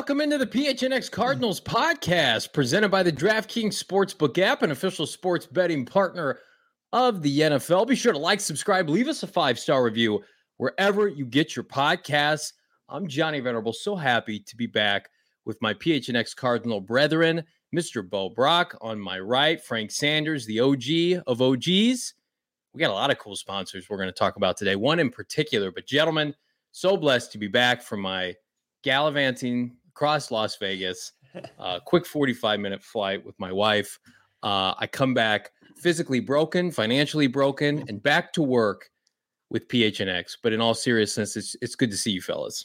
welcome into the PHNX Cardinals podcast, presented by the DraftKings Sportsbook app, an official sports betting partner of the NFL. Be sure to like, subscribe, leave us a 5-star review wherever you get your podcasts. I'm Johnny Venerable, so happy to be back with my PHNX Cardinal brethren, Mr. Bo Brock on my right, Frank Sanders, the OG of OGs. We got a lot of cool sponsors we're going to talk about today, one in particular. But gentlemen, so blessed to be back from my gallivanting across Las Vegas, quick 45-minute flight with my wife. I come back physically broken, financially broken, and back to work with PHNX. But in all seriousness, it's good to see you fellas.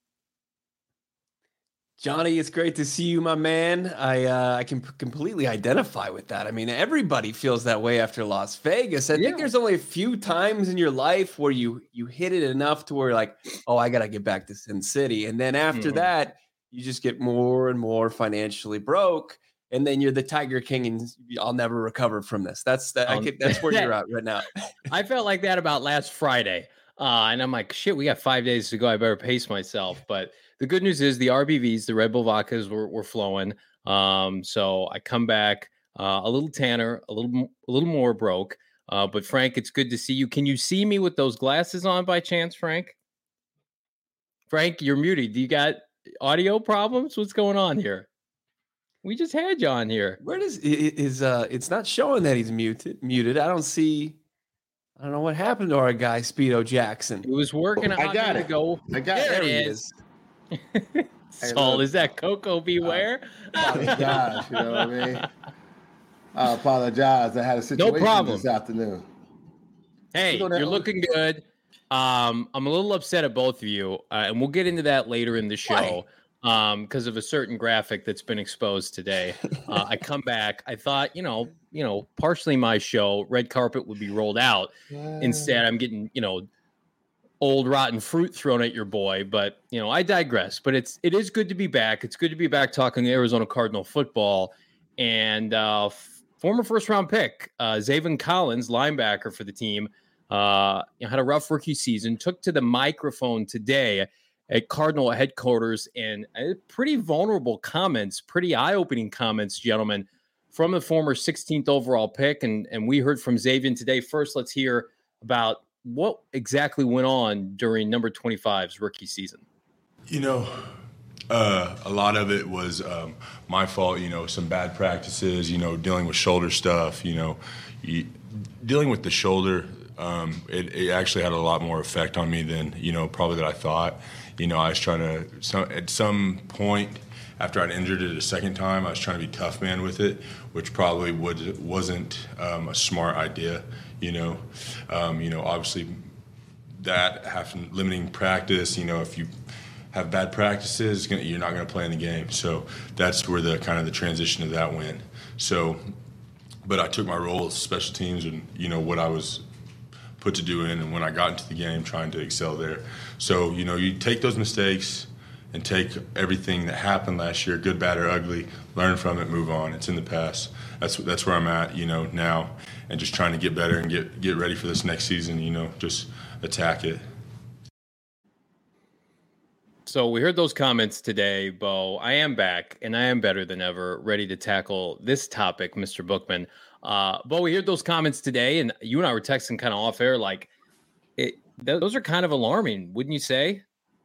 Johnny, it's great to see you, my man. I can completely identify with that. I mean, everybody feels that way after Las Vegas. I think there's only a few times in your life where you hit it enough to where you're like, oh, I got to get back to Sin City. And then after that, you just get more and more financially broke. And then you're the Tiger King, and I'll never recover from this. That's where you're at right now. I felt like that about last Friday. And I'm like, shit, we got 5 days to go. I better pace myself. But the good news is the RBVs, the Red Bull vodkas were flowing. So I come back a little tanner, a little more broke. But Frank, it's good to see you. Can you see me with those glasses on by chance, Frank? Frank, you're muted. Do you got audio problems? What's going on here? We just had you on here. Where does it's not showing that he's muted. I don't know what happened to our guy Speedo Jackson. He was working. I got it. There it is. Saul, is that Coco Beware? Apologize, you know what I mean? I apologize. I had a situation this afternoon. Hey, you're looking good. I'm a little upset at both of you, and we'll get into that later in the show. Because of a certain graphic that's been exposed today. I come back. I thought, partially my show, red carpet would be rolled out. Instead, I'm getting, old rotten fruit thrown at your boy. But, I digress. But it is good to be back. It's good to be back talking Arizona Cardinal football. And former first-round pick, Zaven Collins, linebacker for the team, had a rough rookie season, took to the microphone today at Cardinal headquarters, and pretty vulnerable comments, pretty eye-opening comments, gentlemen, from the former 16th overall pick. And we heard from Zaven today. First, let's hear about what exactly went on during number 25's rookie season. A lot of it was my fault, some bad practices, dealing with shoulder stuff, dealing with the shoulder. It actually had a lot more effect on me than, probably that I thought. I was trying to, at some point after I'd injured it a second time, I was trying to be tough man with it, which probably wasn't a smart idea, obviously that having limiting practice, if you have bad practices, you're not going to play in the game. So that's where the kind of the transition of that went. So, but I took my role as special teams and, what I was put to do in, and when I got into the game, trying to excel there. So, you take those mistakes and take everything that happened last year, good, bad, or ugly, learn from it, move on. It's in the past. That's where I'm at, now, and just trying to get better and get ready for this next season, just attack it. So we heard those comments today, Bo. I am back, and I am better than ever, ready to tackle this topic, Mr. Bookman. Bo, we heard those comments today, and you and I were texting kind of off air, like, those are kind of alarming, wouldn't you say?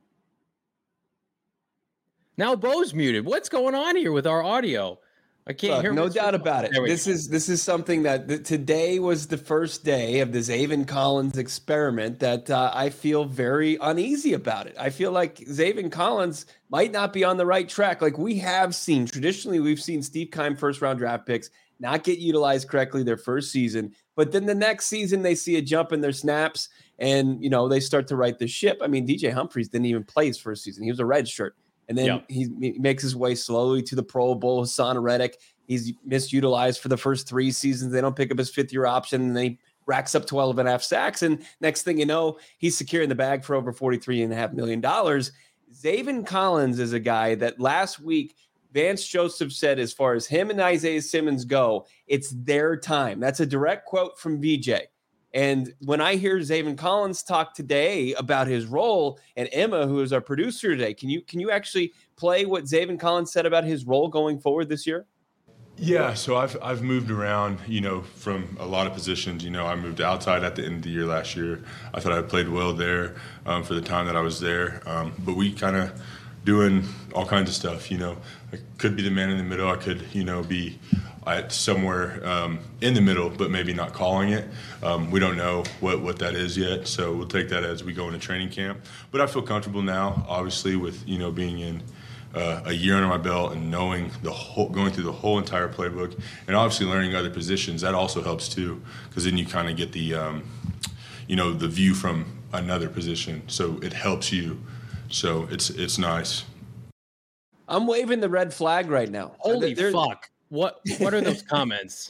Now Bo's muted. What's going on here with our audio? I can't hear. No doubt about it. This is something that today was the first day of the Zaven Collins experiment that I feel very uneasy about it. I feel like Zaven Collins might not be on the right track. Like traditionally we've seen Steve Keim first-round draft picks not get utilized correctly their first season, but then the next season they see a jump in their snaps and, they start to right the ship. I mean, DJ Humphries didn't even play his first season. He was a red shirt. And then he makes his way slowly to the Pro Bowl. Hassan Reddick, he's misutilized for the first 3 seasons. They don't pick up his 5th-year option, and then he racks up 12.5 sacks. And next thing you know, he's securing the bag for over $43.5 million. Zaven Collins is a guy that last week Vance Joseph said, as far as him and Isaiah Simmons go, it's their time. That's a direct quote from VJ. And when I hear Zaven Collins talk today about his role, and Emma, who is our producer today, can you actually play what Zaven Collins said about his role going forward this year? Yeah, so I've moved around, from a lot of positions. I moved outside at the end of the year last year. I thought I played well there for the time that I was there. But we kind of doing all kinds of stuff. I could be the man in the middle. I could, be at somewhere in the middle, but maybe not calling it. We don't know what that is yet, so we'll take that as we go into training camp. But I feel comfortable now, obviously, with being in a year under my belt and knowing going through the whole entire playbook, and obviously learning other positions. That also helps too, because then you kind of get the the view from another position, so it helps you. So it's nice. I'm waving the red flag right now. Holy fuck! What are those comments?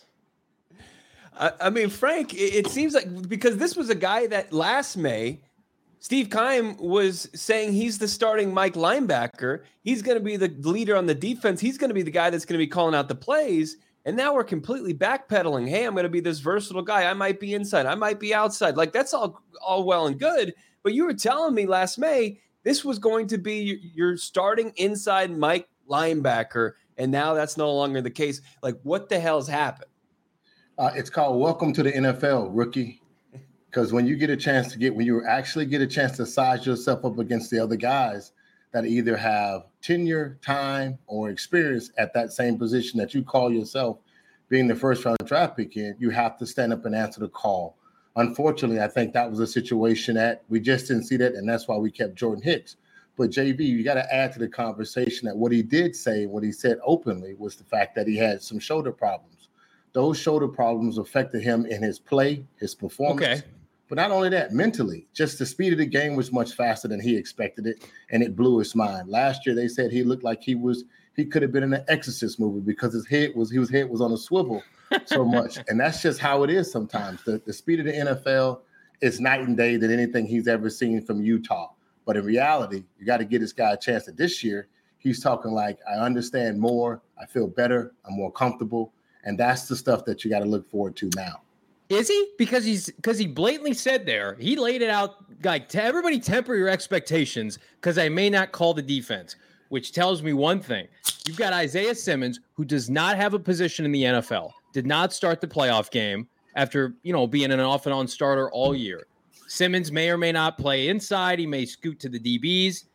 I mean, Frank, it seems like, because this was a guy that last May, Steve Keim was saying he's the starting Mike linebacker. He's going to be the leader on the defense. He's going to be the guy that's going to be calling out the plays. And now we're completely backpedaling. Hey, I'm going to be this versatile guy. I might be inside. I might be outside. Like, that's all well and good. But you were telling me last May this was going to be your starting inside Mike linebacker. And now that's no longer the case. Like, what the hell's happened? It's called welcome to the NFL, rookie. Because when you actually get a chance to size yourself up against the other guys that either have tenure, time, or experience at that same position that you call yourself being the first round draft pick in, you have to stand up and answer the call. Unfortunately, I think that was a situation that we just didn't see that, and that's why we kept Jordan Hicks. But JV, you got to add to the conversation that what he did say, what he said openly, was the fact that he had some shoulder problems. Those shoulder problems affected him in his play, his performance. Okay. But not only that, mentally, just the speed of the game was much faster than he expected it, and it blew his mind. Last year, they said he looked like he could have been in an Exorcist movie because his head was on a swivel so much. And that's just how it is sometimes. The speed of the NFL is night and day than anything he's ever seen from Utah. But in reality, you got to give this guy a chance. That this year, he's talking like, I understand more, I feel better, I'm more comfortable, and that's the stuff that you got to look forward to now. Is he? Because he blatantly said there, he laid it out like, to everybody temper your expectations because I may not call the defense, which tells me one thing. You've got Isaiah Simmons, who does not have a position in the NFL, did not start the playoff game after, being an off and on starter all year. Simmons may or may not play inside. He may scoot to the DBs.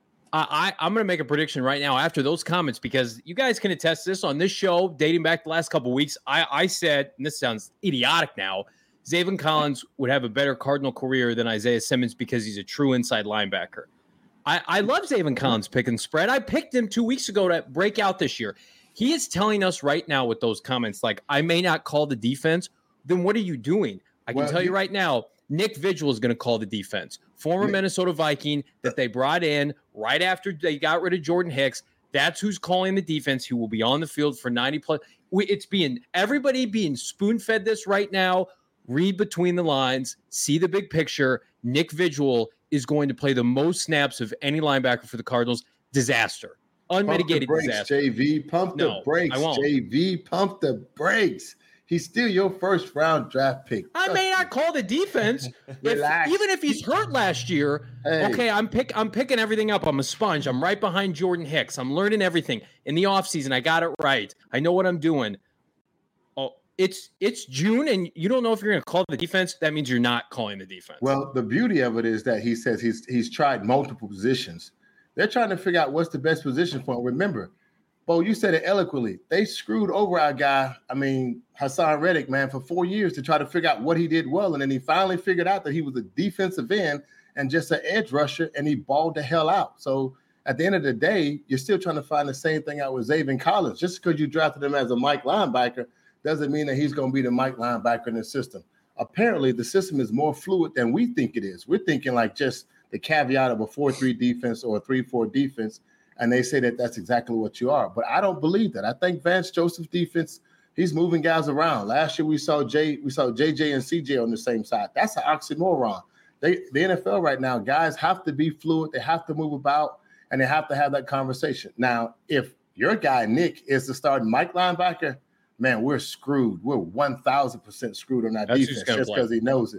I'm going to make a prediction right now after those comments, because you guys can attest this on this show dating back the last couple of weeks. I said, and this sounds idiotic now, Zaven Collins would have a better Cardinal career than Isaiah Simmons because he's a true inside linebacker. I love Zaven Collins pick and spread. I picked him 2 weeks ago to break out this year. He is telling us right now with those comments, like, I may not call the defense. Then what are you doing? I can tell you right now, Nick Vigil is going to call the defense. Former Minnesota Viking that they brought in right after they got rid of Jordan Hicks. That's who's calling the defense. He will be on the field for 90 plus. It's everybody being spoon-fed this right now. Read between the lines. See the big picture. Nick Vigil is going to play the most snaps of any linebacker for the Cardinals. Disaster. Unmitigated disaster. JV, pump the brakes. JV, pump the brakes. He's still your first round draft pick. I may not call the defense. Even if he's hurt last year, okay, I'm picking everything up. I'm a sponge. I'm right behind Jordan Hicks. I'm learning everything. In the offseason, I got it right. I know what I'm doing. Oh, it's June, and you don't know if you're going to call the defense. That means you're not calling the defense. Well, the beauty of it is that he says he's tried multiple positions. They're trying to figure out what's the best position for him. Remember, Bo, you said it eloquently. They screwed over our guy, Hassan Reddick, man, for 4 years to try to figure out what he did well. And then he finally figured out that he was a defensive end and just an edge rusher, and he balled the hell out. So at the end of the day, you're still trying to find the same thing out with Zaven Collins. Just because you drafted him as a Mike linebacker doesn't mean that he's going to be the Mike linebacker in the system. Apparently, the system is more fluid than we think it is. We're thinking like just the caveat of a 4-3 defense or a 3-4 defense. And they say that that's exactly what you are. But I don't believe that. I think Vance Joseph's defense, he's moving guys around. Last year we saw JJ and CJ on the same side. That's an oxymoron. The NFL right now, guys have to be fluid. They have to move about, and they have to have that conversation. Now, if your guy, Nick, is the starting Mike linebacker, man, we're screwed. We're 1,000% screwed on that defense just because he knows it.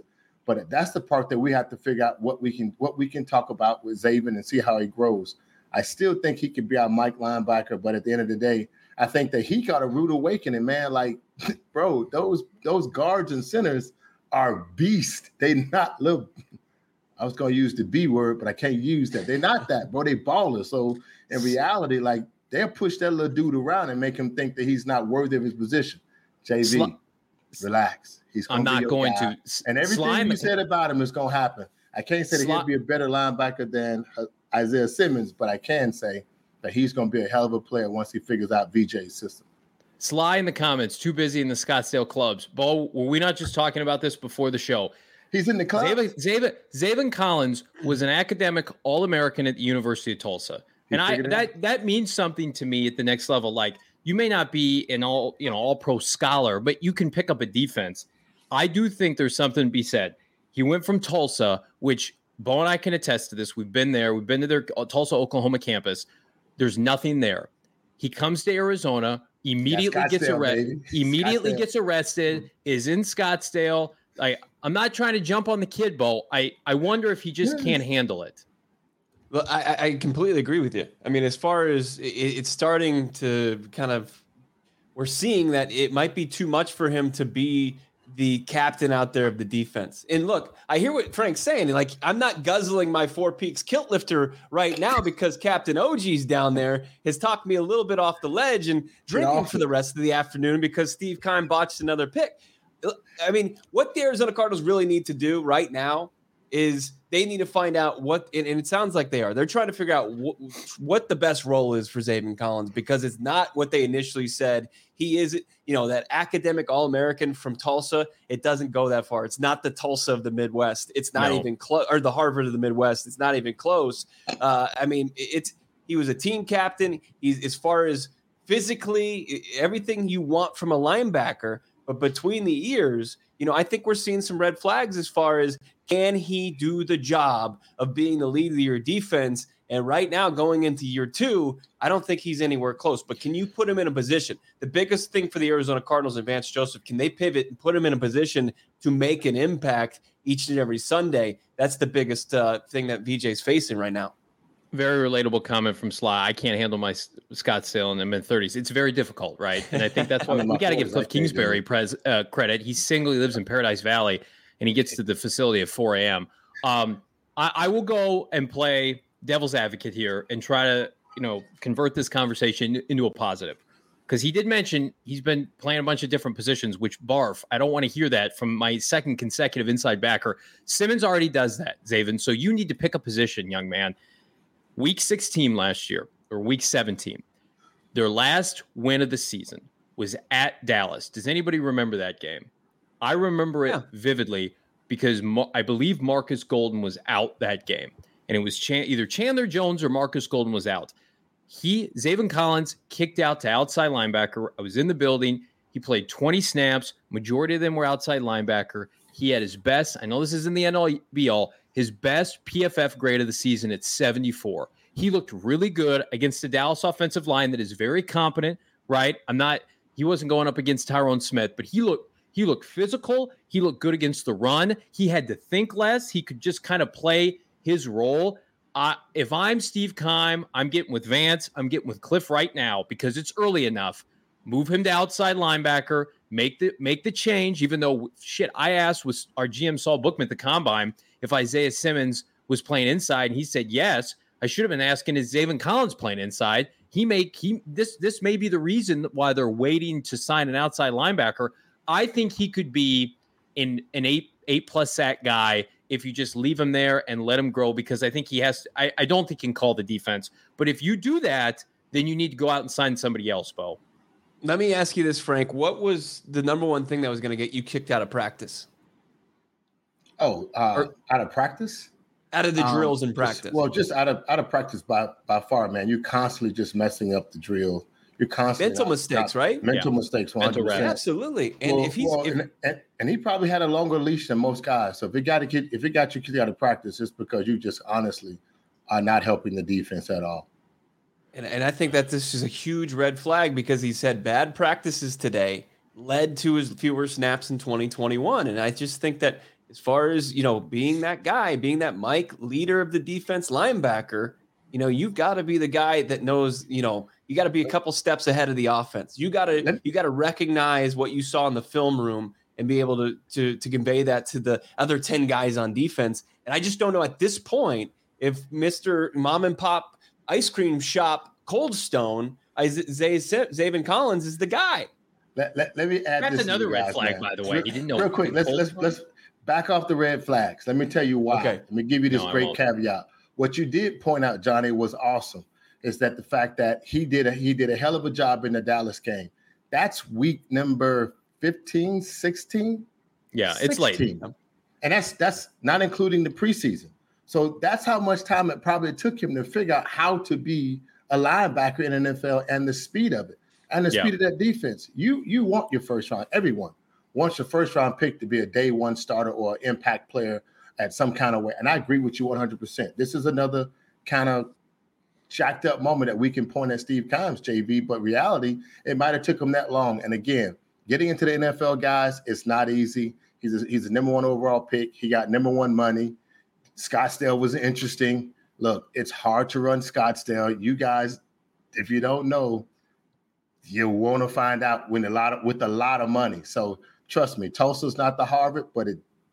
But that's the part that we have to figure out what we can talk about with Zaven and see how he grows. I still think he could be our Mike linebacker, but at the end of the day, I think that he got a rude awakening, man. Like, bro, those guards and centers are beasts. They not little. I was going to use the B word, but I can't use that. They're not that, bro. They ballers. So in reality, like, they'll push that little dude around and make him think that he's not worthy of his position. JV, relax. I'm not going guy. to. And everything you said about him is going to happen. I can't say that he'll be a better linebacker than Isaiah Simmons, but I can say that he's going to be a hell of a player once he figures out VJ's system. Sly in the comments, too busy in the Scottsdale clubs. Bo, were we not just talking about this before the show? He's in the club. Zaven Collins was an academic All-American at the University of Tulsa. And that means something to me at the next level. Like, you may not be an all-pro scholar, but you can pick up a defense. I do think there's something to be said. He went from Tulsa, which Bo and I can attest to this. We've been there. We've been to their Tulsa, Oklahoma campus. There's nothing there. He comes to Arizona, immediately gets arrested, is in Scottsdale. I'm not trying to jump on the kid, Bo. I wonder if he just can't handle it. Well, I completely agree with you. I mean, as far as it's starting to kind of, we're seeing that it might be too much for him to be the captain out there of the defense. And look, I hear what Frank's saying. Like, I'm not guzzling my Four Peaks kilt lifter right now because Captain OG's down there has talked me a little bit off the ledge and drinking for the rest of the afternoon because Steve Keim botched another pick. I mean, what the Arizona Cardinals really need to do right now is they need to find out what, and it sounds like they're trying to figure out what the best role is for Zaven Collins, because it's not what they initially said. He is, that academic All-American from Tulsa. It doesn't go that far. It's not the Tulsa of the Midwest. It's not even close, or the Harvard of the Midwest. It's not even close. I mean, he was a team captain. He's, as far as physically, everything you want from a linebacker, but between the ears, I think we're seeing some red flags as far as, can he do the job of being the lead of your defense? And right now, going into year 2, I don't think he's anywhere close. But can you put him in a position? The biggest thing for the Arizona Cardinals and Vance Joseph, can they pivot and put him in a position to make an impact each and every Sunday? That's the biggest thing that VJ's facing right now. Very relatable comment from Sly. I can't handle my Scottsdale in the mid-30s. It's very difficult, right? And I think that's why we got to give Cliff Kingsbury credit. He singly lives in Paradise Valley, and he gets to the facility at 4 a.m. I will go and play devil's advocate here and try to, convert this conversation into a positive. Because he did mention he's been playing a bunch of different positions, which barf. I don't want to hear that from my second consecutive inside backer. Simmons already does that, Zaven. So you need to pick a position, young man. Week 16 last year, or week 17, their last win of the season was at Dallas. Does anybody remember that game? I remember it vividly because I believe Marcus Golden was out that game. And it was either Chandler Jones or Marcus Golden was out. Zaven Collins kicked out to outside linebacker. I was in the building. He played 20 snaps. Majority of them were outside linebacker. He had his best, I know this isn't the end-all be-all, his best PFF grade of the season at 74. He looked really good against the Dallas offensive line that is very competent, right? He wasn't going up against Tyrone Smith, but he looked physical. He looked good against the run. He had to think less. He could just kind of play his role. If I'm Steve Keim, I'm getting with Vance. I'm getting with Cliff right now because it's early enough. Move him to outside linebacker. Make the change, even though, I asked was our GM Saul Bookman at the Combine if Isaiah Simmons was playing inside, and he said yes. I should have been asking, is Zaven Collins playing inside? This may be the reason why they're waiting to sign an outside linebacker. I think he could be an 8+ sack guy if you just leave him there and let him grow, because I think he has. I don't think he can call the defense, but if you do that, then you need to go out and sign somebody else, Bo. Let me ask you this, Frank. What was the number one thing that was going to get you kicked out of practice? Out of practice? Out of the drills in practice. Just out of practice by far, man. You're constantly just messing up the drill. You're constantly mental mistakes, right? Mental mistakes, 100%. Absolutely. And and he probably had a longer leash than most guys. So if it got you kicked out of practice, it's because you just honestly are not helping the defense at all. And I think that this is a huge red flag because he said bad practices today led to his fewer snaps in 2021. And I just think that as far as, being that guy, being that Mike leader of the defense linebacker, you've got to be the guy that knows, you got to be a couple steps ahead of the offense. You got to recognize what you saw in the film room and be able to convey that to the other 10 guys on defense. And I just don't know at this point if Mr. Mom and Pop Ice Cream Shop Cold Stone, Zaven Collins is the guy. Let me add That's this. Another red flag, by the way. He didn't know. Real quick, let's back off the red flags. Let me tell you why. Okay. Let me give you this great caveat. What you did point out, Johnny, was awesome. Is that the fact that he did a hell of a job in the Dallas game. That's week number 15, 16. Yeah, 16. It's late. And that's not including the preseason. So that's how much time it probably took him to figure out how to be a linebacker in the NFL and the speed of it and the speed of that defense. You want your first round. Everyone wants your first round pick to be a day one starter or impact player at some kind of way. And I agree with you 100%. This is another kind of jacked up moment that we can point at Steve Keim's, JV, but reality, it might have took him that long. And again, getting into the NFL, guys, it's not easy. He's a number one overall pick. He got number one money. Scottsdale was interesting. Look, it's hard to run Scottsdale. You guys, if you don't know, you want to find out with a lot of money. So trust me, Tulsa's not the Harvard, but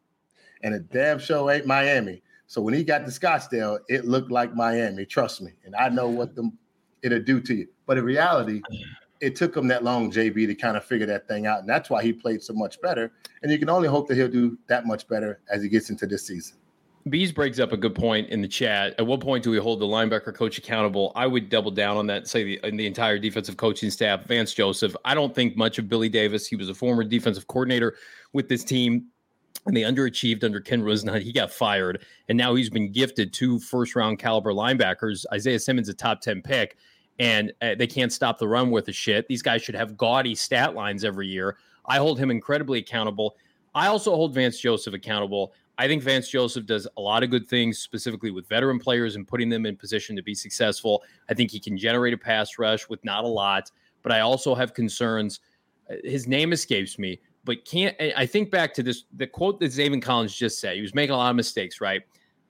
a damn show ain't Miami. So when he got to Scottsdale, it looked like Miami. Trust me, and I know what it'll do to you. But in reality, it took him that long, JB, to kind of figure that thing out, and that's why he played so much better. And you can only hope that he'll do that much better as he gets into this season. Bees brings up a good point in the chat. At what point do we hold the linebacker coach accountable? I would double down on that, say the entire defensive coaching staff. Vance Joseph, I don't think much of Billy Davis. He was a former defensive coordinator with this team, and they underachieved under Ken Rusnut. He got fired, and now he's been gifted 2 first-round caliber linebackers. Isaiah Simmons, a top 10 pick, and they can't stop the run worth of shit. These guys should have gaudy stat lines every year. I hold him incredibly accountable. I also hold Vance Joseph accountable. I think Vance Joseph does a lot of good things, specifically with veteran players and putting them in position to be successful. I think he can generate a pass rush with not a lot, but I also have concerns. His name escapes me, but I think back to the quote that Zaven Collins just said. He was making a lot of mistakes, right?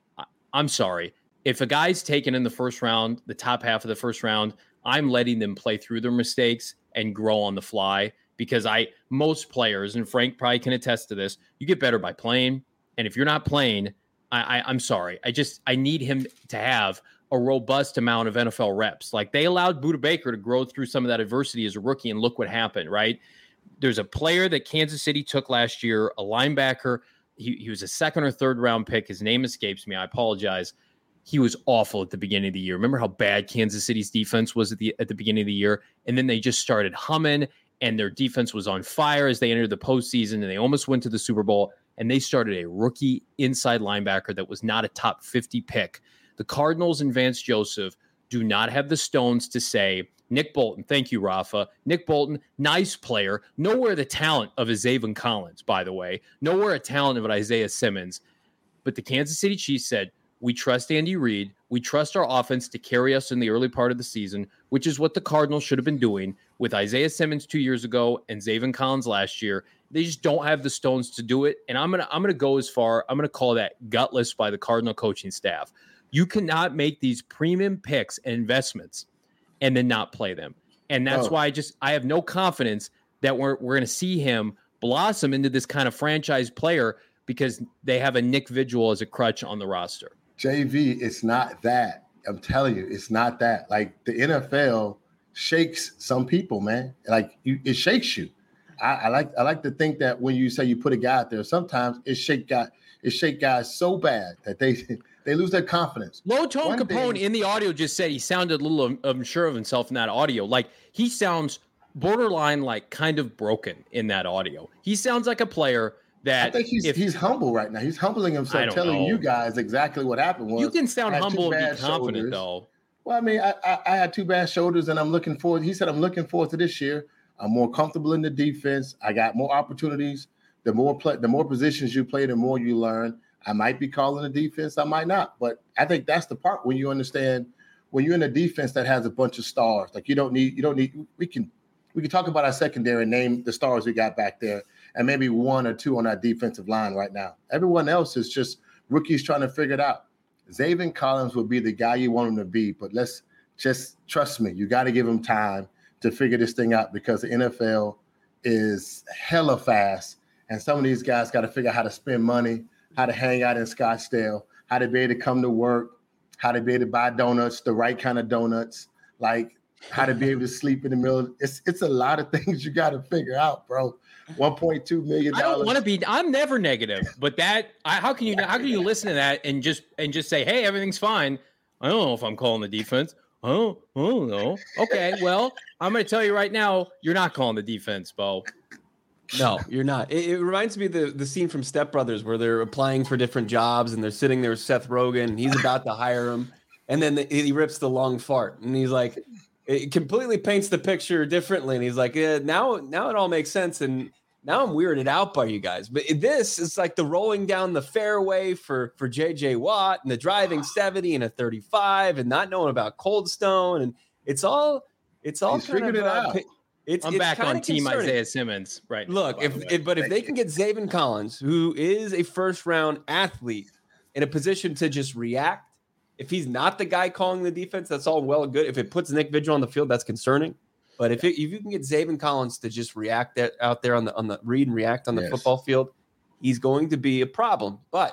I'm sorry. If a guy's taken in the first round, the top half of the first round, I'm letting them play through their mistakes and grow on the fly, because most players, and Frank probably can attest to this, you get better by playing. And if you're not playing, I'm sorry. I need him to have a robust amount of NFL reps. Like, they allowed Budda Baker to grow through some of that adversity as a rookie, and look what happened, right? There's a player that Kansas City took last year, a linebacker. He was a 2nd or 3rd round pick. His name escapes me. I apologize. He was awful at the beginning of the year. Remember how bad Kansas City's defense was at the beginning of the year? And then they just started humming, and their defense was on fire as they entered the postseason, and they almost went to the Super Bowl. And they started a rookie inside linebacker that was not a top 50 pick. The Cardinals and Vance Joseph do not have the stones to say, Nick Bolton, thank you, Rafa. Nick Bolton, nice player. Nowhere the talent of a Zaven Collins, by the way. Nowhere a talent of an Isaiah Simmons. But the Kansas City Chiefs said, we trust Andy Reid. We trust our offense to carry us in the early part of the season, which is what the Cardinals should have been doing with Isaiah Simmons 2 years ago and Zaven Collins last year. They just don't have the stones to do it. And I'm gonna go as far. I'm gonna call that gutless by the Cardinal coaching staff. You cannot make these premium picks and investments and then not play them. And that's why I have no confidence that we're gonna see him blossom into this kind of franchise player, because they have a Nick Vigil as a crutch on the roster. JV, it's not that. I'm telling you, it's not that. Like, the NFL shakes some people, man. Like, it shakes you. I like to think that when you say you put a guy out there, sometimes it shake guys so bad that they lose their confidence. Low Tone Capone in the audio just said he sounded a little unsure of himself in that audio. Like, he sounds borderline, like, kind of broken in that audio. He sounds like a player that I think he's humble right now. He's humbling himself, telling you guys exactly what happened. You can sound humble and be confident, though. Well, I mean, I had 2 bad shoulders, and I'm looking forward. He said, I'm looking forward to this year. I'm more comfortable in the defense. I got more opportunities. The more positions you play, the more you learn. I might be calling the defense. I might not. But I think that's the part when you understand, when you're in a defense that has a bunch of stars, like you don't need, we can talk about our secondary and name the stars we got back there. and maybe one or two on our defensive line right now. Everyone else is just rookies trying to figure it out. Zaven Collins will be the guy you want him to be, but let's just trust me. You got to give him time to figure this thing out because the NFL is hella fast, and some of these guys got to figure out how to spend money, how to hang out in Scottsdale, how to be able to come to work, how to be able to buy donuts, the right kind of donuts, like how to be able to sleep in the middle. It's a lot of things you got to figure out, bro. $1.2 million. I don't want to be. I'm never negative, but how can you listen to that and just say, hey, everything's fine? I don't know if I'm calling the defense. Oh no. Okay, well, I'm going to tell you right now, you're not calling the defense, Bo. No, you're not. It reminds me of the scene from Step Brothers where they're applying for different jobs and they're sitting there with Seth Rogen and he's about to hire him. And then he rips the long fart and he's like, it completely paints the picture differently. And he's like, now it all makes sense. And now I'm weirded out by you guys. But this is like the rolling down the fairway for JJ Watt and the driving 70 and a 35 and not knowing about Cold Stone. And it's all He's figured it out. I'm back on team concerning. Isaiah Simmons, right? Look, if they can get Zaven Collins, who is a first-round athlete, in a position to just react, if he's not the guy calling the defense, that's all well and good. If it puts Nick Vigil on the field, that's concerning. But if you can get Zaven Collins to just react out there on the read and react on the football field, he's going to be a problem. But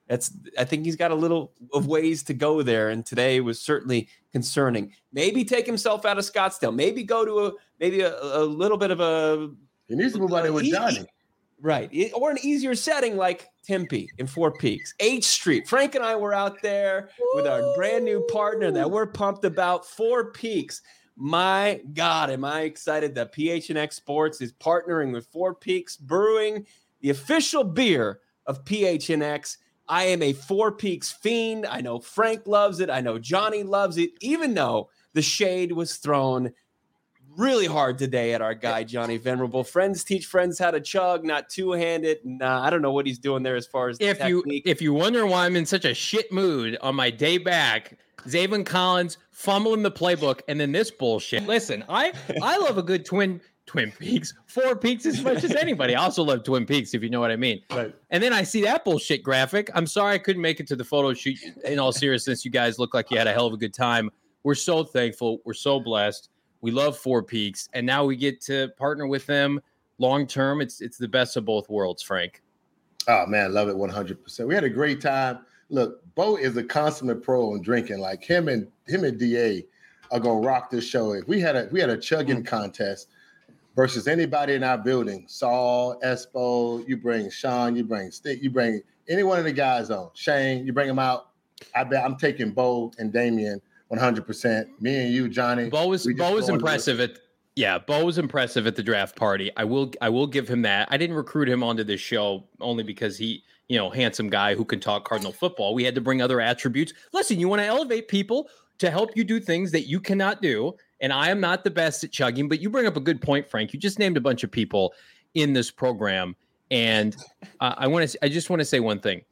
I think he's got a little of ways to go there, and today was certainly concerning. Maybe take himself out of Scottsdale. Maybe go to a little bit of a. He needs to move out there with Johnny, right? Or an easier setting like Tempe in Four Peaks, H Street. Frank and I were out there with our brand new partner that we're pumped about. Four Peaks. My God, am I excited that PHNX Sports is partnering with Four Peaks Brewing, the official beer of PHNX. I am a Four Peaks fiend. I know Frank loves it. I know Johnny loves it, even though the shade was thrown really hard today at our guy, Johnny Venerable. Friends teach friends how to chug, not two-handed. Nah, I don't know what he's doing there as far as technique. If you wonder why I'm in such a shit mood on my day back, Zaven Collins fumbling the playbook and then this bullshit. Listen, I love a good Twin Peaks, Four Peaks as much as anybody. I also love Twin Peaks, if you know what I mean. Right. And then I see that bullshit graphic. I'm sorry I couldn't make it to the photo shoot. In all seriousness, you guys look like you had a hell of a good time. We're so thankful. We're so blessed. We love Four Peaks, and now we get to partner with them long term. It's the best of both worlds, Frank. Oh man, love it 100%. We had a great time. Look, Bo is a consummate pro in drinking. Like him and DA are gonna rock this show. If we had a chugging contest versus anybody in our building, Saul, Espo, you bring Sean, you bring Stick, you bring any one of the guys on, Shane, you bring them out. I bet I'm taking Bo and Damian 100%. Me and you, Johnny. Bo was impressive Bo was impressive at the draft party. I will give him that. I didn't recruit him onto this show only because he, handsome guy who can talk Cardinal football. We had to bring other attributes. Listen, you want to elevate people to help you do things that you cannot do. And I am not the best at chugging, but you bring up a good point, Frank. You just named a bunch of people in this program. And I just want to say one thing.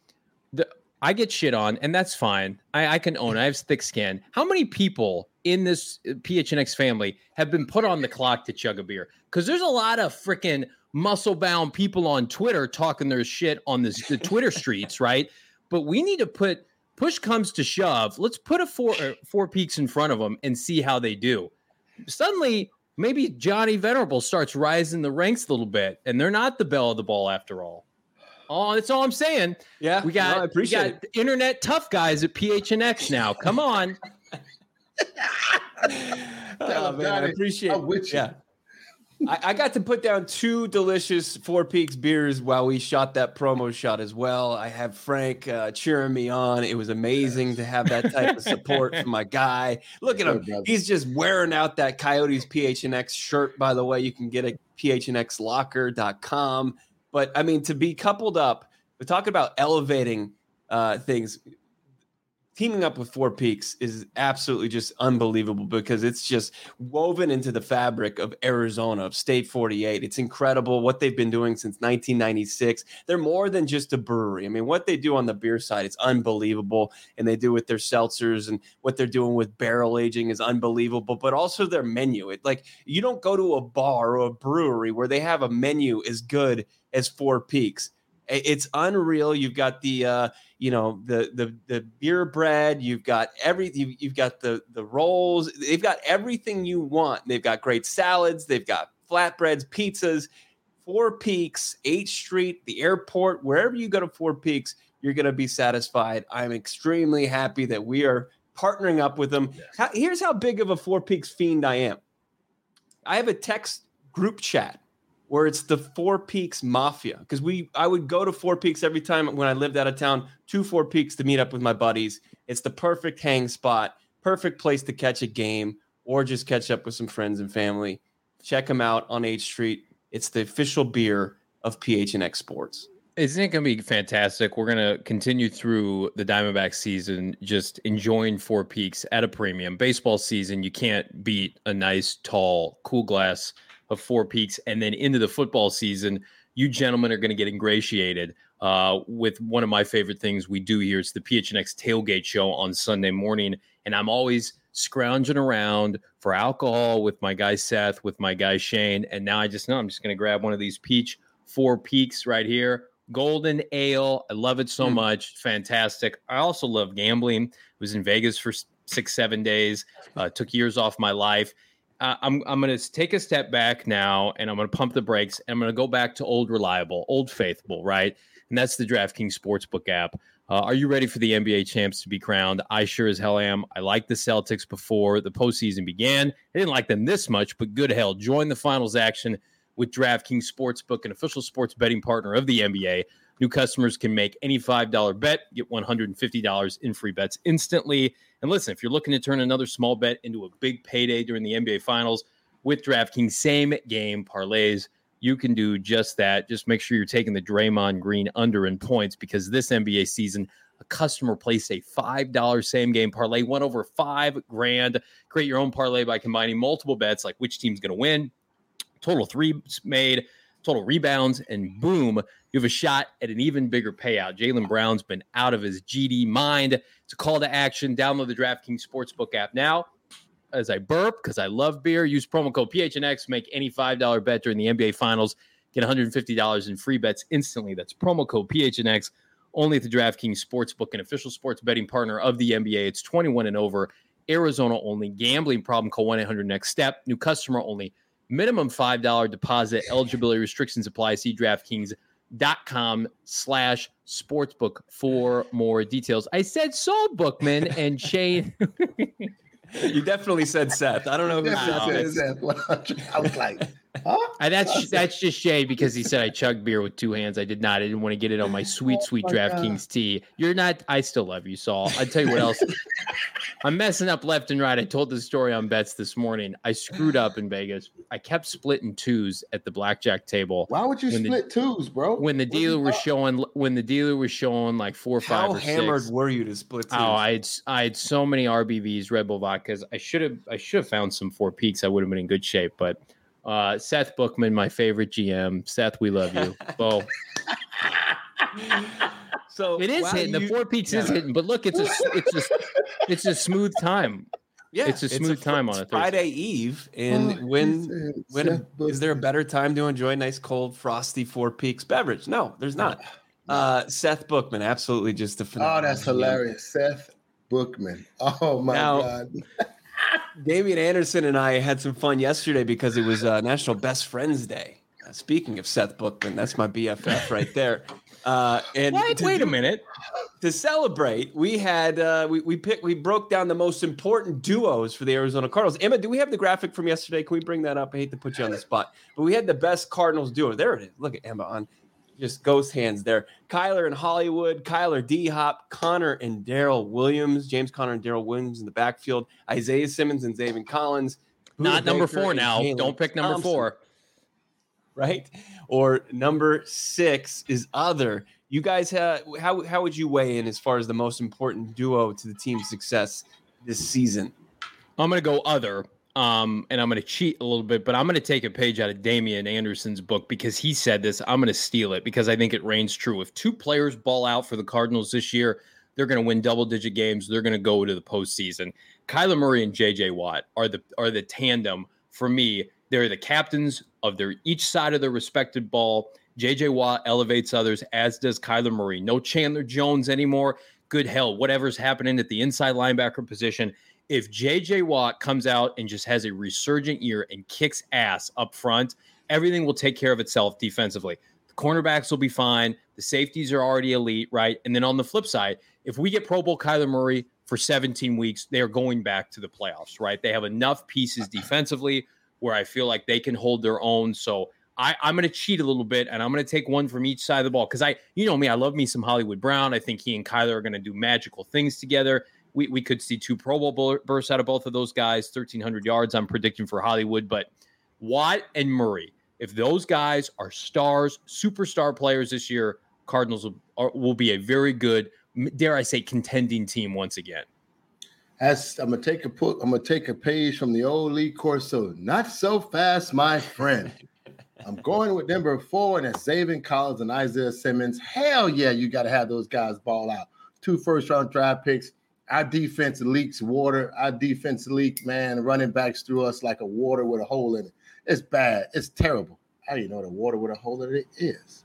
I get shit on, and that's fine. I can own it. I have thick skin. How many people in this PHNX family have been put on the clock to chug a beer? Because there's a lot of freaking muscle-bound people on Twitter talking their shit on the Twitter streets, right? But we need to push comes to shove. Let's put Four Peaks in front of them and see how they do. Suddenly, maybe Johnny Venerable starts rising the ranks a little bit, and they're not the belle of the ball after all. Oh, that's all I'm saying. Yeah, we got internet tough guys at PHNX now. Come on. Oh, man, I appreciate it. Yeah. I got to put down 2 delicious Four Peaks beers while we shot that promo shot as well. I have Frank cheering me on. It was amazing to have that type of support from my guy. Look at him. He's just wearing out that Coyotes PHNX shirt, by the way. You can get it at phnxlocker.com. But, I mean, to be coupled up, we're talking about elevating things. teaming up with Four Peaks is absolutely just unbelievable because it's just woven into the fabric of Arizona, of State 48. It's incredible what they've been doing since 1996. They're more than just a brewery. I mean, what they do on the beer side is unbelievable, and they do with their seltzers, and what they're doing with barrel aging is unbelievable, but also their menu. You don't go to a bar or a brewery where they have a menu as good as Four Peaks. It's unreal. You've got the beer bread. You've got you've got the rolls. They've got everything you want. They've got great salads. They've got flatbreads, pizzas. Four Peaks, 8th Street, the airport, wherever you go to Four Peaks, you're going to be satisfied. I'm extremely happy that we are partnering up with them. Yes. Here's how big of a Four Peaks fiend I am. I have a text group chat where it's the Four Peaks Mafia, because I would go to Four Peaks every time when I lived out of town to Four Peaks to meet up with my buddies. It's the perfect hang spot, perfect place to catch a game or just catch up with some friends and family. Check them out on 8th Street. It's the official beer of PHNX Sports. Isn't it going to be fantastic? We're going to continue through the Diamondback season, just enjoying Four Peaks at a premium. Baseball season, you can't beat a nice, tall, cool glass of Four Peaks. And then into the football season, you gentlemen are going to get ingratiated with one of my favorite things we do here. It's the PHNX Tailgate Show on Sunday morning. And I'm always scrounging around for alcohol with my guy Seth, with my guy Shane. And now I just know I'm just going to grab one of these peach Four Peaks right here. Golden Ale. I love it so much. Fantastic. I also love gambling. I was in Vegas for 6-7 days. Took years off my life. I'm going to take a step back now, and I'm going to pump the brakes, and I'm going to go back to old reliable, old faithful, right? And that's the DraftKings Sportsbook app. Are you ready for the NBA champs to be crowned? I sure as hell am. I liked the Celtics before the postseason began. I didn't like them this much, but good hell. Join the finals action with DraftKings Sportsbook, an official sports betting partner of the NBA. New customers can make any $5 bet, get $150 in free bets instantly. And listen, if you're looking to turn another small bet into a big payday during the NBA Finals with DraftKings same-game parlays, you can do just that. Just make sure you're taking the Draymond Green under in points, because this NBA season, a customer placed a $5 same-game parlay, won over $5,000. Create your own parlay by combining multiple bets, like which team's going to win, total threes made, total rebounds, and boom, you have a shot at an even bigger payout. Jaylen Brown's been out of his GD mind. It's a call to action. Download the DraftKings Sportsbook app now. As I burp, because I love beer, use promo code PHNX, make any $5 bet during the NBA Finals, get $150 in free bets instantly. That's promo code PHNX, only at the DraftKings Sportsbook, an official sports betting partner of the NBA. It's 21 and over, Arizona only. Gambling problem, call 1-800-NEXT-STEP. New customer only. Minimum $5 deposit. Eligibility restrictions apply. See DraftKings.com/sportsbook for more details. I said Saul Bookman and Shane. You definitely said Seth. I don't know who Seth is. I was like, huh? That's just shade because he said I chugged beer with two hands. I did not. I didn't want to get it on my sweet DraftKings tea. You're not. I still love you, Saul. I'll tell you what else. I'm messing up left and right. I told the story on bets this morning. I screwed up in Vegas. I kept splitting twos at the blackjack table. Why would you split twos, bro? When the dealer was showing like 4 or 5 or 6. How hammered were you to split twos? Oh, I had so many RBVs, Red Bull vodkas. I should have found some Four Peaks. I would have been in good shape. But Seth Bookman, my favorite GM. Seth, we love you. Bo. So it is hitting. The Four Peaks is hitting, but look, it's a smooth time. Yeah, it's a smooth time on a Friday Eve, and when is there a better time to enjoy a nice cold frosty Four Peaks beverage? No, there's not. Seth Bookman, absolutely just a phenomenal. Oh, that's hilarious, Seth Bookman. Oh my God. Damian Anderson and I had some fun yesterday because it was National Best Friends Day. Speaking of Seth Bookman, that's my BFF right there. And wait a minute. To celebrate, we had we broke down the most important duos for the Arizona Cardinals. Emma, do we have the graphic from yesterday? Can we bring that up? I hate to put you on the spot, but we had the best Cardinals duo. There it is. Look at Emma on just ghost hands there. Kyler and Hollywood, Kyler D-Hop, Connor and Darrell Williams, James Conner and Darrell Williams in the backfield, Isaiah Simmons and Zaven Collins. Not number 4 now. Don't pick number 4. Right? Or number 6 is other You guys, how would you weigh in as far as the most important duo to the team's success this season? I'm going to go other, and I'm going to cheat a little bit, but I'm going to take a page out of Damian Anderson's book because he said this. I'm going to steal it because I think it reigns true. If two players ball out for the Cardinals this year, they're going to win double-digit games. They're going to go to the postseason. Kyler Murray and J.J. Watt are the tandem for me. They're the captains of each side of their respective ball. J.J. Watt elevates others, as does Kyler Murray. No Chandler Jones anymore. Good hell, whatever's happening at the inside linebacker position. If J.J. Watt comes out and just has a resurgent year and kicks ass up front, everything will take care of itself defensively. The cornerbacks will be fine. The safeties are already elite, right? And then on the flip side, if we get Pro Bowl Kyler Murray for 17 weeks, they are going back to the playoffs, right? They have enough pieces defensively where I feel like they can hold their own. So I'm going to cheat a little bit, and I'm going to take one from each side of the ball because you know me, I love me some Hollywood Brown. I think he and Kyler are going to do magical things together. We could see 2 Pro Bowl bursts out of both of those guys, 1,300 yards I'm predicting for Hollywood. But Watt and Murray, if those guys are stars, superstar players this year, Cardinals will be a very good, dare I say, contending team once again. I'm gonna take a page from the old Lee Corso. Not so fast, my friend. I'm going with number 4, and that's Zaven Collins and Isaiah Simmons. Hell yeah, you got to have those guys ball out. 2 first-round draft picks. Our defense leaks water. Our defense leak, man, running backs through us like a water with a hole in it. It's bad. It's terrible. How do you know what a water with a hole in it is?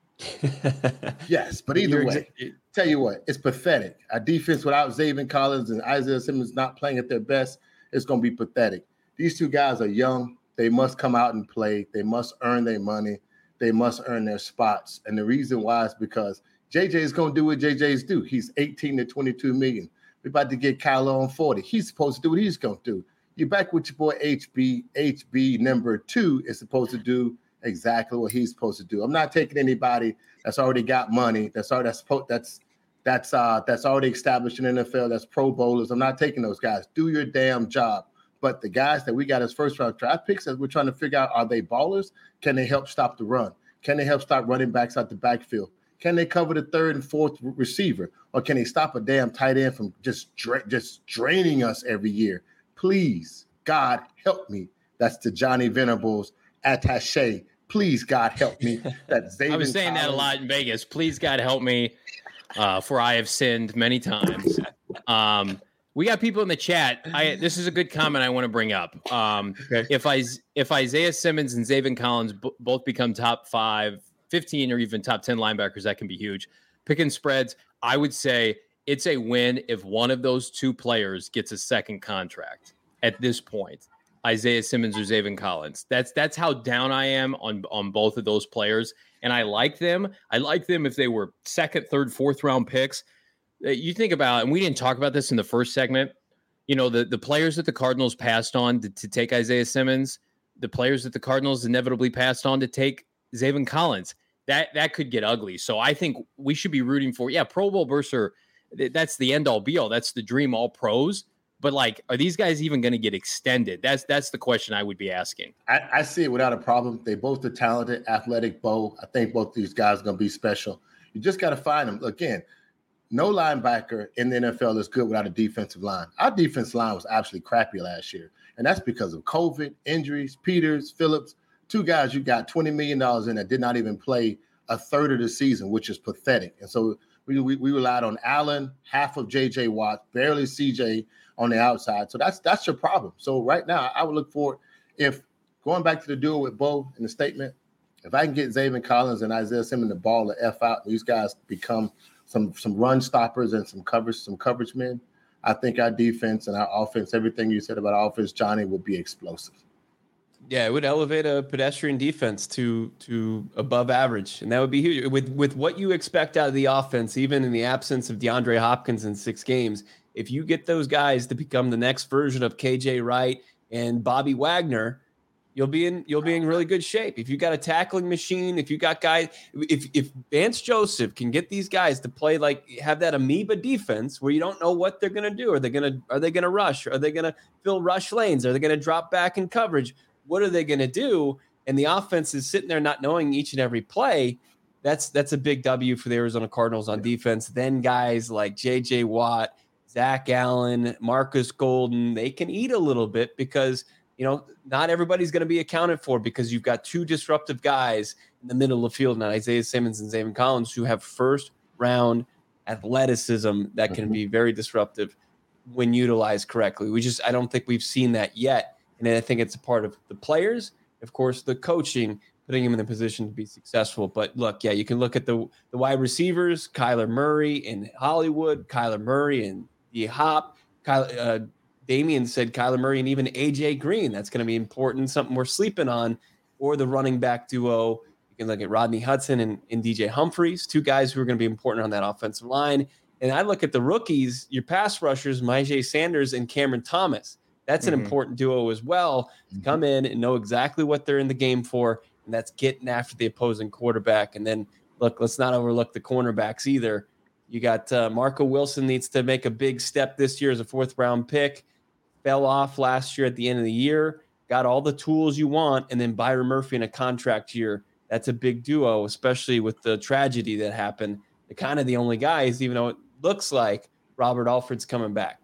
Yes, but either way, tell you what, it's pathetic. Our defense without Zaven Collins and Isaiah Simmons not playing at their best, it's going to be pathetic. These 2 guys are young. They must come out and play. They must earn their money. They must earn their spots. And the reason why is because JJ is going to do what JJ's do. He's 18 to 22 million. We're about to get Kyler on 40. He's supposed to do what he's going to do. You're back with your boy HB. HB number 2 is supposed to do exactly what he's supposed to do. I'm not taking anybody that's already got money. That's already established in the NFL. That's Pro Bowlers. I'm not taking those guys. Do your damn job. But the guys that we got as first-round draft picks, as we're trying to figure out, are they ballers? Can they help stop the run? Can they help stop running backs out the backfield? Can they cover the 3rd and 4th receiver? Or can they stop a damn tight end from just draining us every year? Please, God, help me. That's to Johnny Venables attaché. Please, God, help me. I was saying that a lot in Vegas. Please, God, help me, for I have sinned many times. We got people in the chat. This is a good comment I want to bring up. Okay. If Isaiah Simmons and Zaven Collins both become top 5, 15, or even top 10 linebackers, that can be huge. Picking spreads, I would say it's a win if one of those 2 players gets a second contract at this point. Isaiah Simmons or Zaven Collins. That's how down I am on both of those players. And I like them. I like them if they were 2nd, 3rd, 4th round picks. You think about, and we didn't talk about this in the first segment, you know, the players that the Cardinals passed on to take Isaiah Simmons, the players that the Cardinals inevitably passed on to take Zaven Collins, that could get ugly. So I think we should be rooting for, Pro Bowl burster. That's the end all be all. That's the dream, all pros. But like, are these guys even going to get extended? That's the question I would be asking. I see it without a problem. They both are talented, athletic, Bo. I think both these guys are going to be special. You just got to find them. Again, no linebacker in the NFL is good without a defensive line. Our defensive line was absolutely crappy last year, and that's because of COVID, injuries, Peters, Phillips, 2 guys you got $20 million in that did not even play a third of the season, which is pathetic. And so we relied on Allen, half of J.J. Watt, barely C.J. on the outside. So that's your problem. So right now, I would look for, if going back to the duel with Bo in the statement, if I can get Zaven Collins and Isaiah Simmons the ball to F out, and these guys become some run stoppers and some coverage men, I think our defense and our offense, everything you said about our offense, Johnny, will be explosive. Yeah, it would elevate a pedestrian defense to above average, and that would be huge. With what you expect out of the offense, even in the absence of DeAndre Hopkins in 6 games, if you get those guys to become the next version of KJ Wright and Bobby Wagner, you'll be in really good shape. If you got a tackling machine, if you got guys, if Vance Joseph can get these guys to play have that amoeba defense where you don't know what they're gonna do. Are they gonna rush? Are they gonna fill rush lanes? Are they gonna drop back in coverage? What are they gonna do? And the offense is sitting there not knowing each and every play. that's a big W for the Arizona Cardinals on defense. Then guys like J.J. Watt, Zach Allen, Marcus Golden, they can eat a little bit because, not everybody's going to be accounted for because you've got two disruptive guys in the middle of the field now, Isaiah Simmons and Zaven Collins, who have first-round athleticism that can be very disruptive when utilized correctly. I don't think we've seen that yet. And I think it's a part of the players, of course, the coaching, putting him in a position to be successful. But look, you can look at the wide receivers, Kyler Murray in Hollywood, Kyler Murray and D-Hop, Damian said Kyler Murray and even A.J. Green. That's going to be important, something we're sleeping on. Or the running back duo. You can look at Rodney Hudson and DJ Humphries, two guys who are going to be important on that offensive line. And I look at the rookies, your pass rushers, Myjai Sanders and Cameron Thomas. That's an important duo as well to come in and know exactly what they're in the game for, and that's getting after the opposing quarterback. And then, look, let's not overlook the cornerbacks either. You got Marco Wilson needs to make a big step this year as a fourth-round pick. Fell off last year at the end of the year. Got all the tools you want, and then Byron Murphy in a contract year. That's a big duo, especially with the tragedy that happened. They're kind of the only guys, even though it looks like Robert Alford's coming back.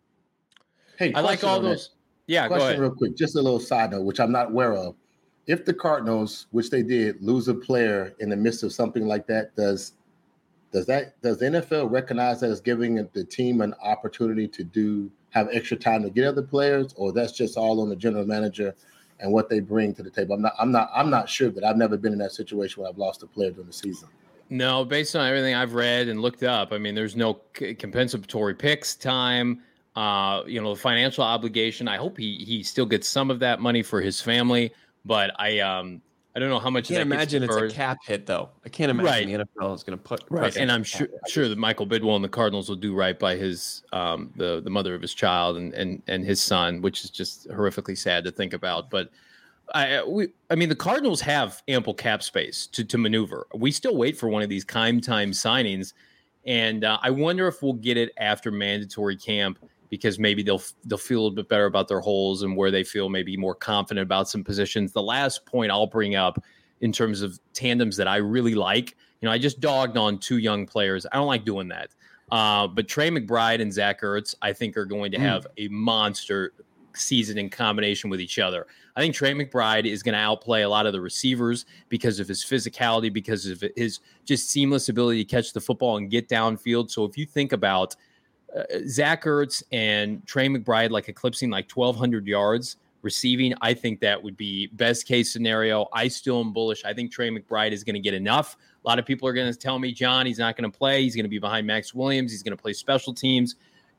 Hey, I like all those. Yeah, go ahead. Real quick, just a little side note, which I'm not aware of. If the Cardinals, which they did, lose a player in the midst of something like that, does the NFL recognize that as giving the team an opportunity to have extra time to get other players, or that's just all on the general manager and what they bring to the table? I'm not sure that I've never been in that situation where I've lost a player during the season. No, based on everything I've read and looked up, I mean, there's no compensatory picks time. The financial obligation. I hope he still gets some of that money for his family, but I don't know how much. I can't imagine it's a cap hit though. I can't imagine the NFL is going to put right. And I'm sure that Michael Bidwell and the Cardinals will do right by his the mother of his child and his son, which is just horrifically sad to think about. But I mean, the Cardinals have ample cap space to maneuver. We still wait for one of these time signings, and I wonder if we'll get it after mandatory camp, because maybe they'll feel a little bit better about their holes and where they feel maybe more confident about some positions. The last point I'll bring up in terms of tandems that I really like, I just dogged on two young players. I don't like doing that. But Trey McBride and Zach Ertz, I think, are going to have a monster season in combination with each other. I think Trey McBride is going to outplay a lot of the receivers because of his physicality, because of his just seamless ability to catch the football and get downfield. So if you think about Zach Ertz and Trey McBride like eclipsing like 1,200 yards receiving, I think that would be best case scenario. I still am bullish. I think Trey McBride is going to get enough. A lot of people are going to tell me, John, he's not going to play. He's going to be behind Max Williams. He's going to play special teams.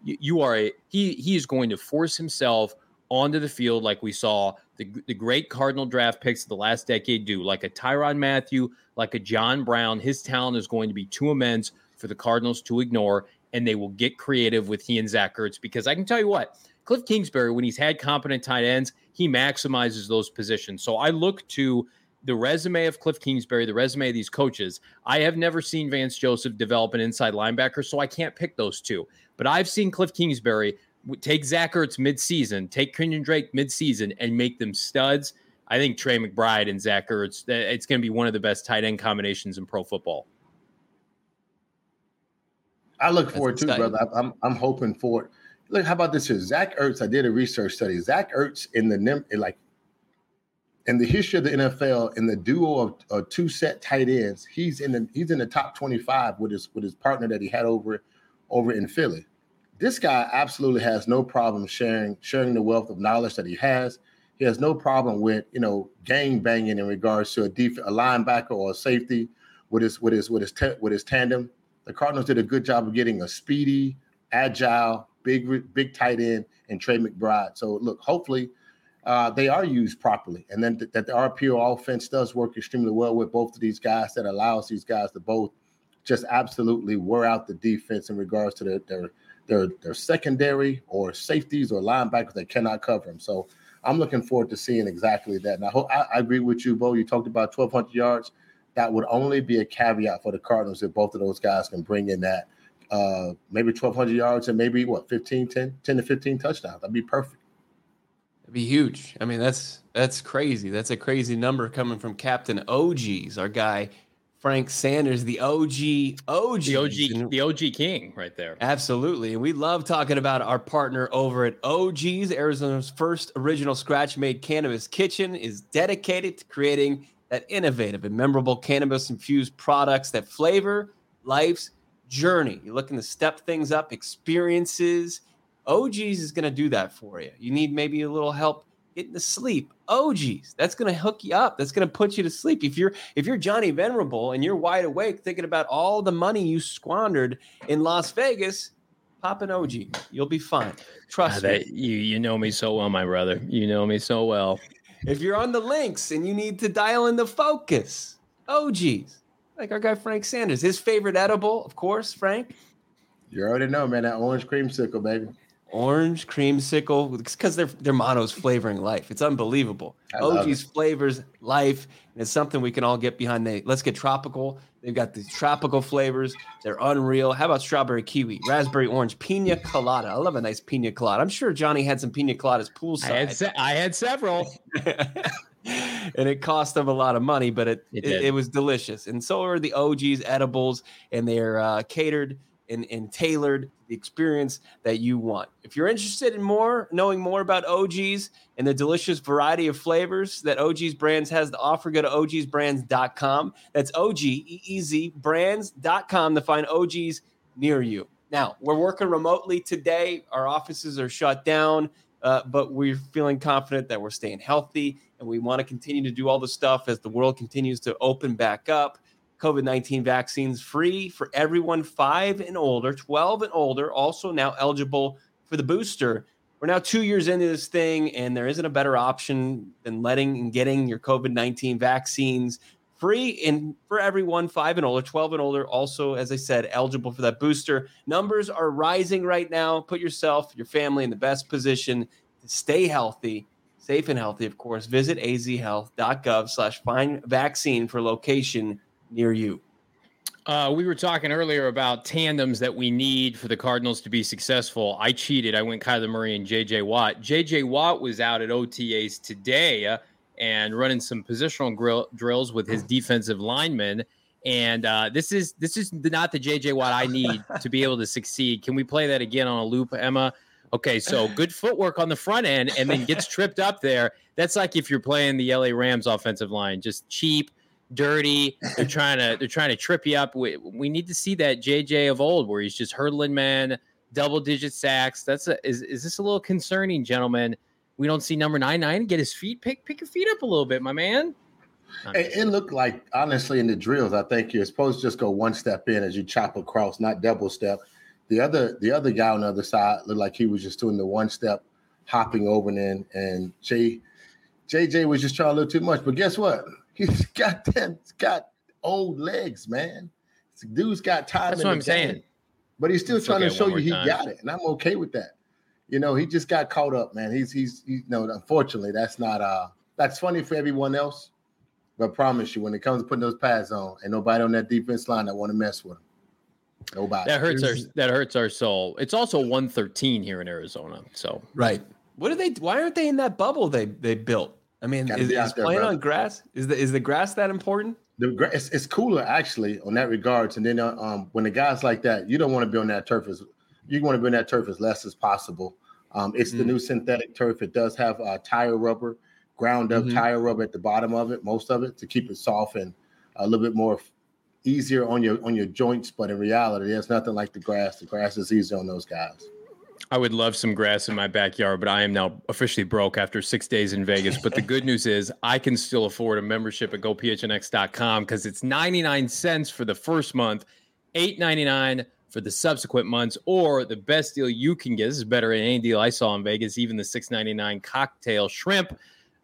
He is going to force himself onto the field like we saw the great Cardinal draft picks of the last decade do, like a Tyrann Mathieu, like a John Brown. His talent is going to be too immense for the Cardinals to ignore, and they will get creative with he and Zach Ertz, because I can tell you what, Cliff Kingsbury, when he's had competent tight ends, he maximizes those positions. So I look to the resume of Cliff Kingsbury, the resume of these coaches. I have never seen Vance Joseph develop an inside linebacker, so I can't pick those two. But I've seen Cliff Kingsbury take Zach Ertz midseason, take Kenyon Drake midseason, and make them studs. I think Trey McBride and Zach Ertz, it's going to be one of the best tight end combinations in pro football. I look forward to it, brother. I'm hoping for it. Look, how about this here? Zach Ertz, I did a research study. Zach Ertz in the history of the NFL, in the duo of two set tight ends, he's in the top 25 with his partner that he had over in Philly. This guy absolutely has no problem sharing the wealth of knowledge that he has. He has no problem with gang banging in regards to a linebacker or a safety with his tandem. The Cardinals did a good job of getting a speedy, agile, big tight end in Trey McBride. So look, hopefully they are used properly, and then that the RPO offense does work extremely well with both of these guys, that allows these guys to both just absolutely wear out the defense in regards to their secondary or safeties or linebackers that cannot cover them. So I'm looking forward to seeing exactly that. And I agree with you, Bo. You talked about 1,200 yards. That would only be a caveat for the Cardinals if both of those guys can bring in that maybe 1,200 yards and maybe 10 to 15 touchdowns. That'd be perfect. It'd be huge. I mean, that's crazy. That's a crazy number coming from Captain OGs, our guy Frank Sanders, the OG, the OG king right there. Absolutely. And we love talking about our partner over at OG's. Arizona's first original scratch-made cannabis kitchen is dedicated to creating that innovative and memorable cannabis-infused products that flavor life's journey. You're looking to step things up, experiences. OG's is going to do that for you. You need maybe a little help getting to sleep. OG's, that's going to hook you up. That's going to put you to sleep. If you're Johnny Venerable and you're wide awake thinking about all the money you squandered in Las Vegas, pop an OG. You'll be fine. Trust me. You know me so well, my brother. You know me so well. If you're on the links and you need to dial in the focus, OG's. Like our guy Frank Sanders. His favorite edible, of course, Frank. You already know, man, that orange creamsicle, baby. Orange creamsicle, because their motto is flavoring life. It's unbelievable. OG's flavors life, and it's something we can all get behind. Let's get tropical. They've got these tropical flavors. They're unreal. How about strawberry kiwi, raspberry orange, pina colada? I love a nice pina colada. I'm sure Johnny had some pina coladas poolside. I had several. And it cost them a lot of money, but it was delicious. And so are the OG's edibles, and they're catered and tailored the experience that you want. If you're interested in knowing more about OG's and the delicious variety of flavors that OG's Brands has to offer, go to ogsbrands.com. That's OGEEZ brands.com to find OG's near you. Now, we're working remotely today. Our offices are shut down, but we're feeling confident that we're staying healthy, and we want to continue to do all the stuff as the world continues to open back up. COVID-19 vaccines free for everyone 5 and older, 12 and older, also now eligible for the booster. We're now 2 years into this thing, and there isn't a better option than letting and getting your COVID-19 vaccines free and for everyone 5 and older, 12 and older, also, as I said, eligible for that booster. Numbers are rising right now. Put yourself, your family in the best position to stay healthy, safe and healthy, of course. Visit azhealth.gov/find vaccine for location near you. We were talking earlier about tandems that we need for the Cardinals to be successful. I cheated. I went Kyler Murray and J.J. Watt. J.J. Watt was out at OTAs today and running some positional drills with his defensive linemen. And this is not the J.J. Watt I need to be able to succeed. Can we play that again on a loop, Emma? Okay, so good footwork on the front end and then gets tripped up there. That's like if you're playing the LA Rams offensive line, just cheap, dirty. They're trying to trip you up. We need to see that JJ of old where he's just hurdling man, double-digit sacks. Is this a little concerning, gentlemen? We don't see number 99 get his feet pick your feet up a little bit, my man. It looked like, honestly, in the drills, I think you're supposed to just go one step in as you chop across, not double step. The other guy on the other side looked like he was just doing the one step, hopping over and JJ was just trying a little too much. But guess what? He's got old legs, man. This dude's got time. That's what I'm saying. But he's still trying to show you he got it, and I'm okay with that. You know, he just got caught up, man. He's unfortunately, that's not that's funny for everyone else. But I promise you, when it comes to putting those pads on, ain't nobody on that defense line that want to mess with him. Nobody. That hurts our soul. It's also 113 here in Arizona. So right. Why aren't they in that bubble they built? I mean, is playing on grass? Is the grass that important? It's cooler actually on that regards. And then when the guys like that, you don't want to be on that turf you want to be on that turf as less as possible. It's the new synthetic turf. It does have tire rubber, ground up tire rubber at the bottom of it, most of it, to keep it soft and a little bit more easier on your joints. But in reality, there's nothing like the grass. The grass is easier on those guys. I would love some grass in my backyard, but I am now officially broke after 6 days in Vegas. But the good news is I can still afford a membership at GoPHNX.com because it's 99 cents for the first month, $8.99 for the subsequent months, or the best deal you can get. This is better than any deal I saw in Vegas, even the $6.99 cocktail shrimp,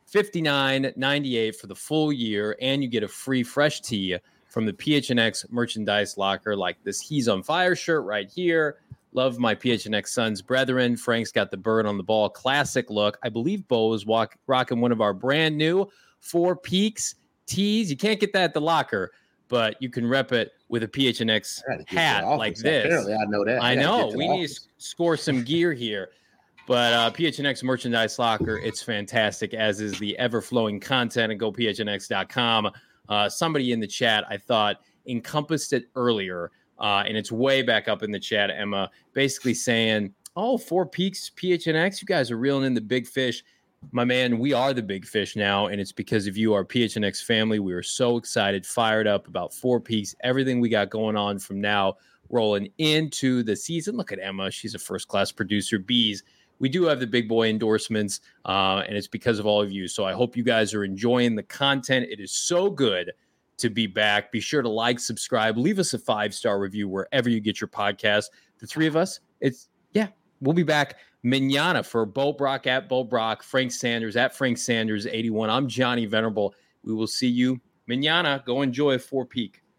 $59.98 for the full year, and you get a free fresh tee from the PHNX merchandise locker like this He's on Fire shirt right here. Love my PHNX Sons brethren. Frank's got the bird on the ball classic look. I believe Bo is rocking one of our brand new Four Peaks tees. You can't get that at the locker, but you can rep it with a PHNX hat like this. Apparently, I know that. I know. We need to score some gear here. But PHNX merchandise locker, it's fantastic, as is the ever-flowing content at GoPHNX.com. Somebody in the chat, I thought, encompassed it earlier, and it's way back up in the chat, Emma, basically saying, oh, Four Peaks, PHNX, you guys are reeling in the big fish. My man, we are the big fish now, and it's because of you, our PHNX family. We are so excited, fired up about Four Peaks, everything we got going on from now rolling into the season. Look at Emma. She's a first-class producer. Bees. We do have the big boy endorsements, and it's because of all of you. So I hope you guys are enjoying the content. It is so good to be back. Be sure to like, subscribe, leave us a 5-star review wherever you get your podcast. The three of us, we'll be back mañana for Bo Brock at Bo Brock, Frank Sanders at Frank Sanders 81. I'm Johnny Venerable. We will see you mañana. Go enjoy Four Peak.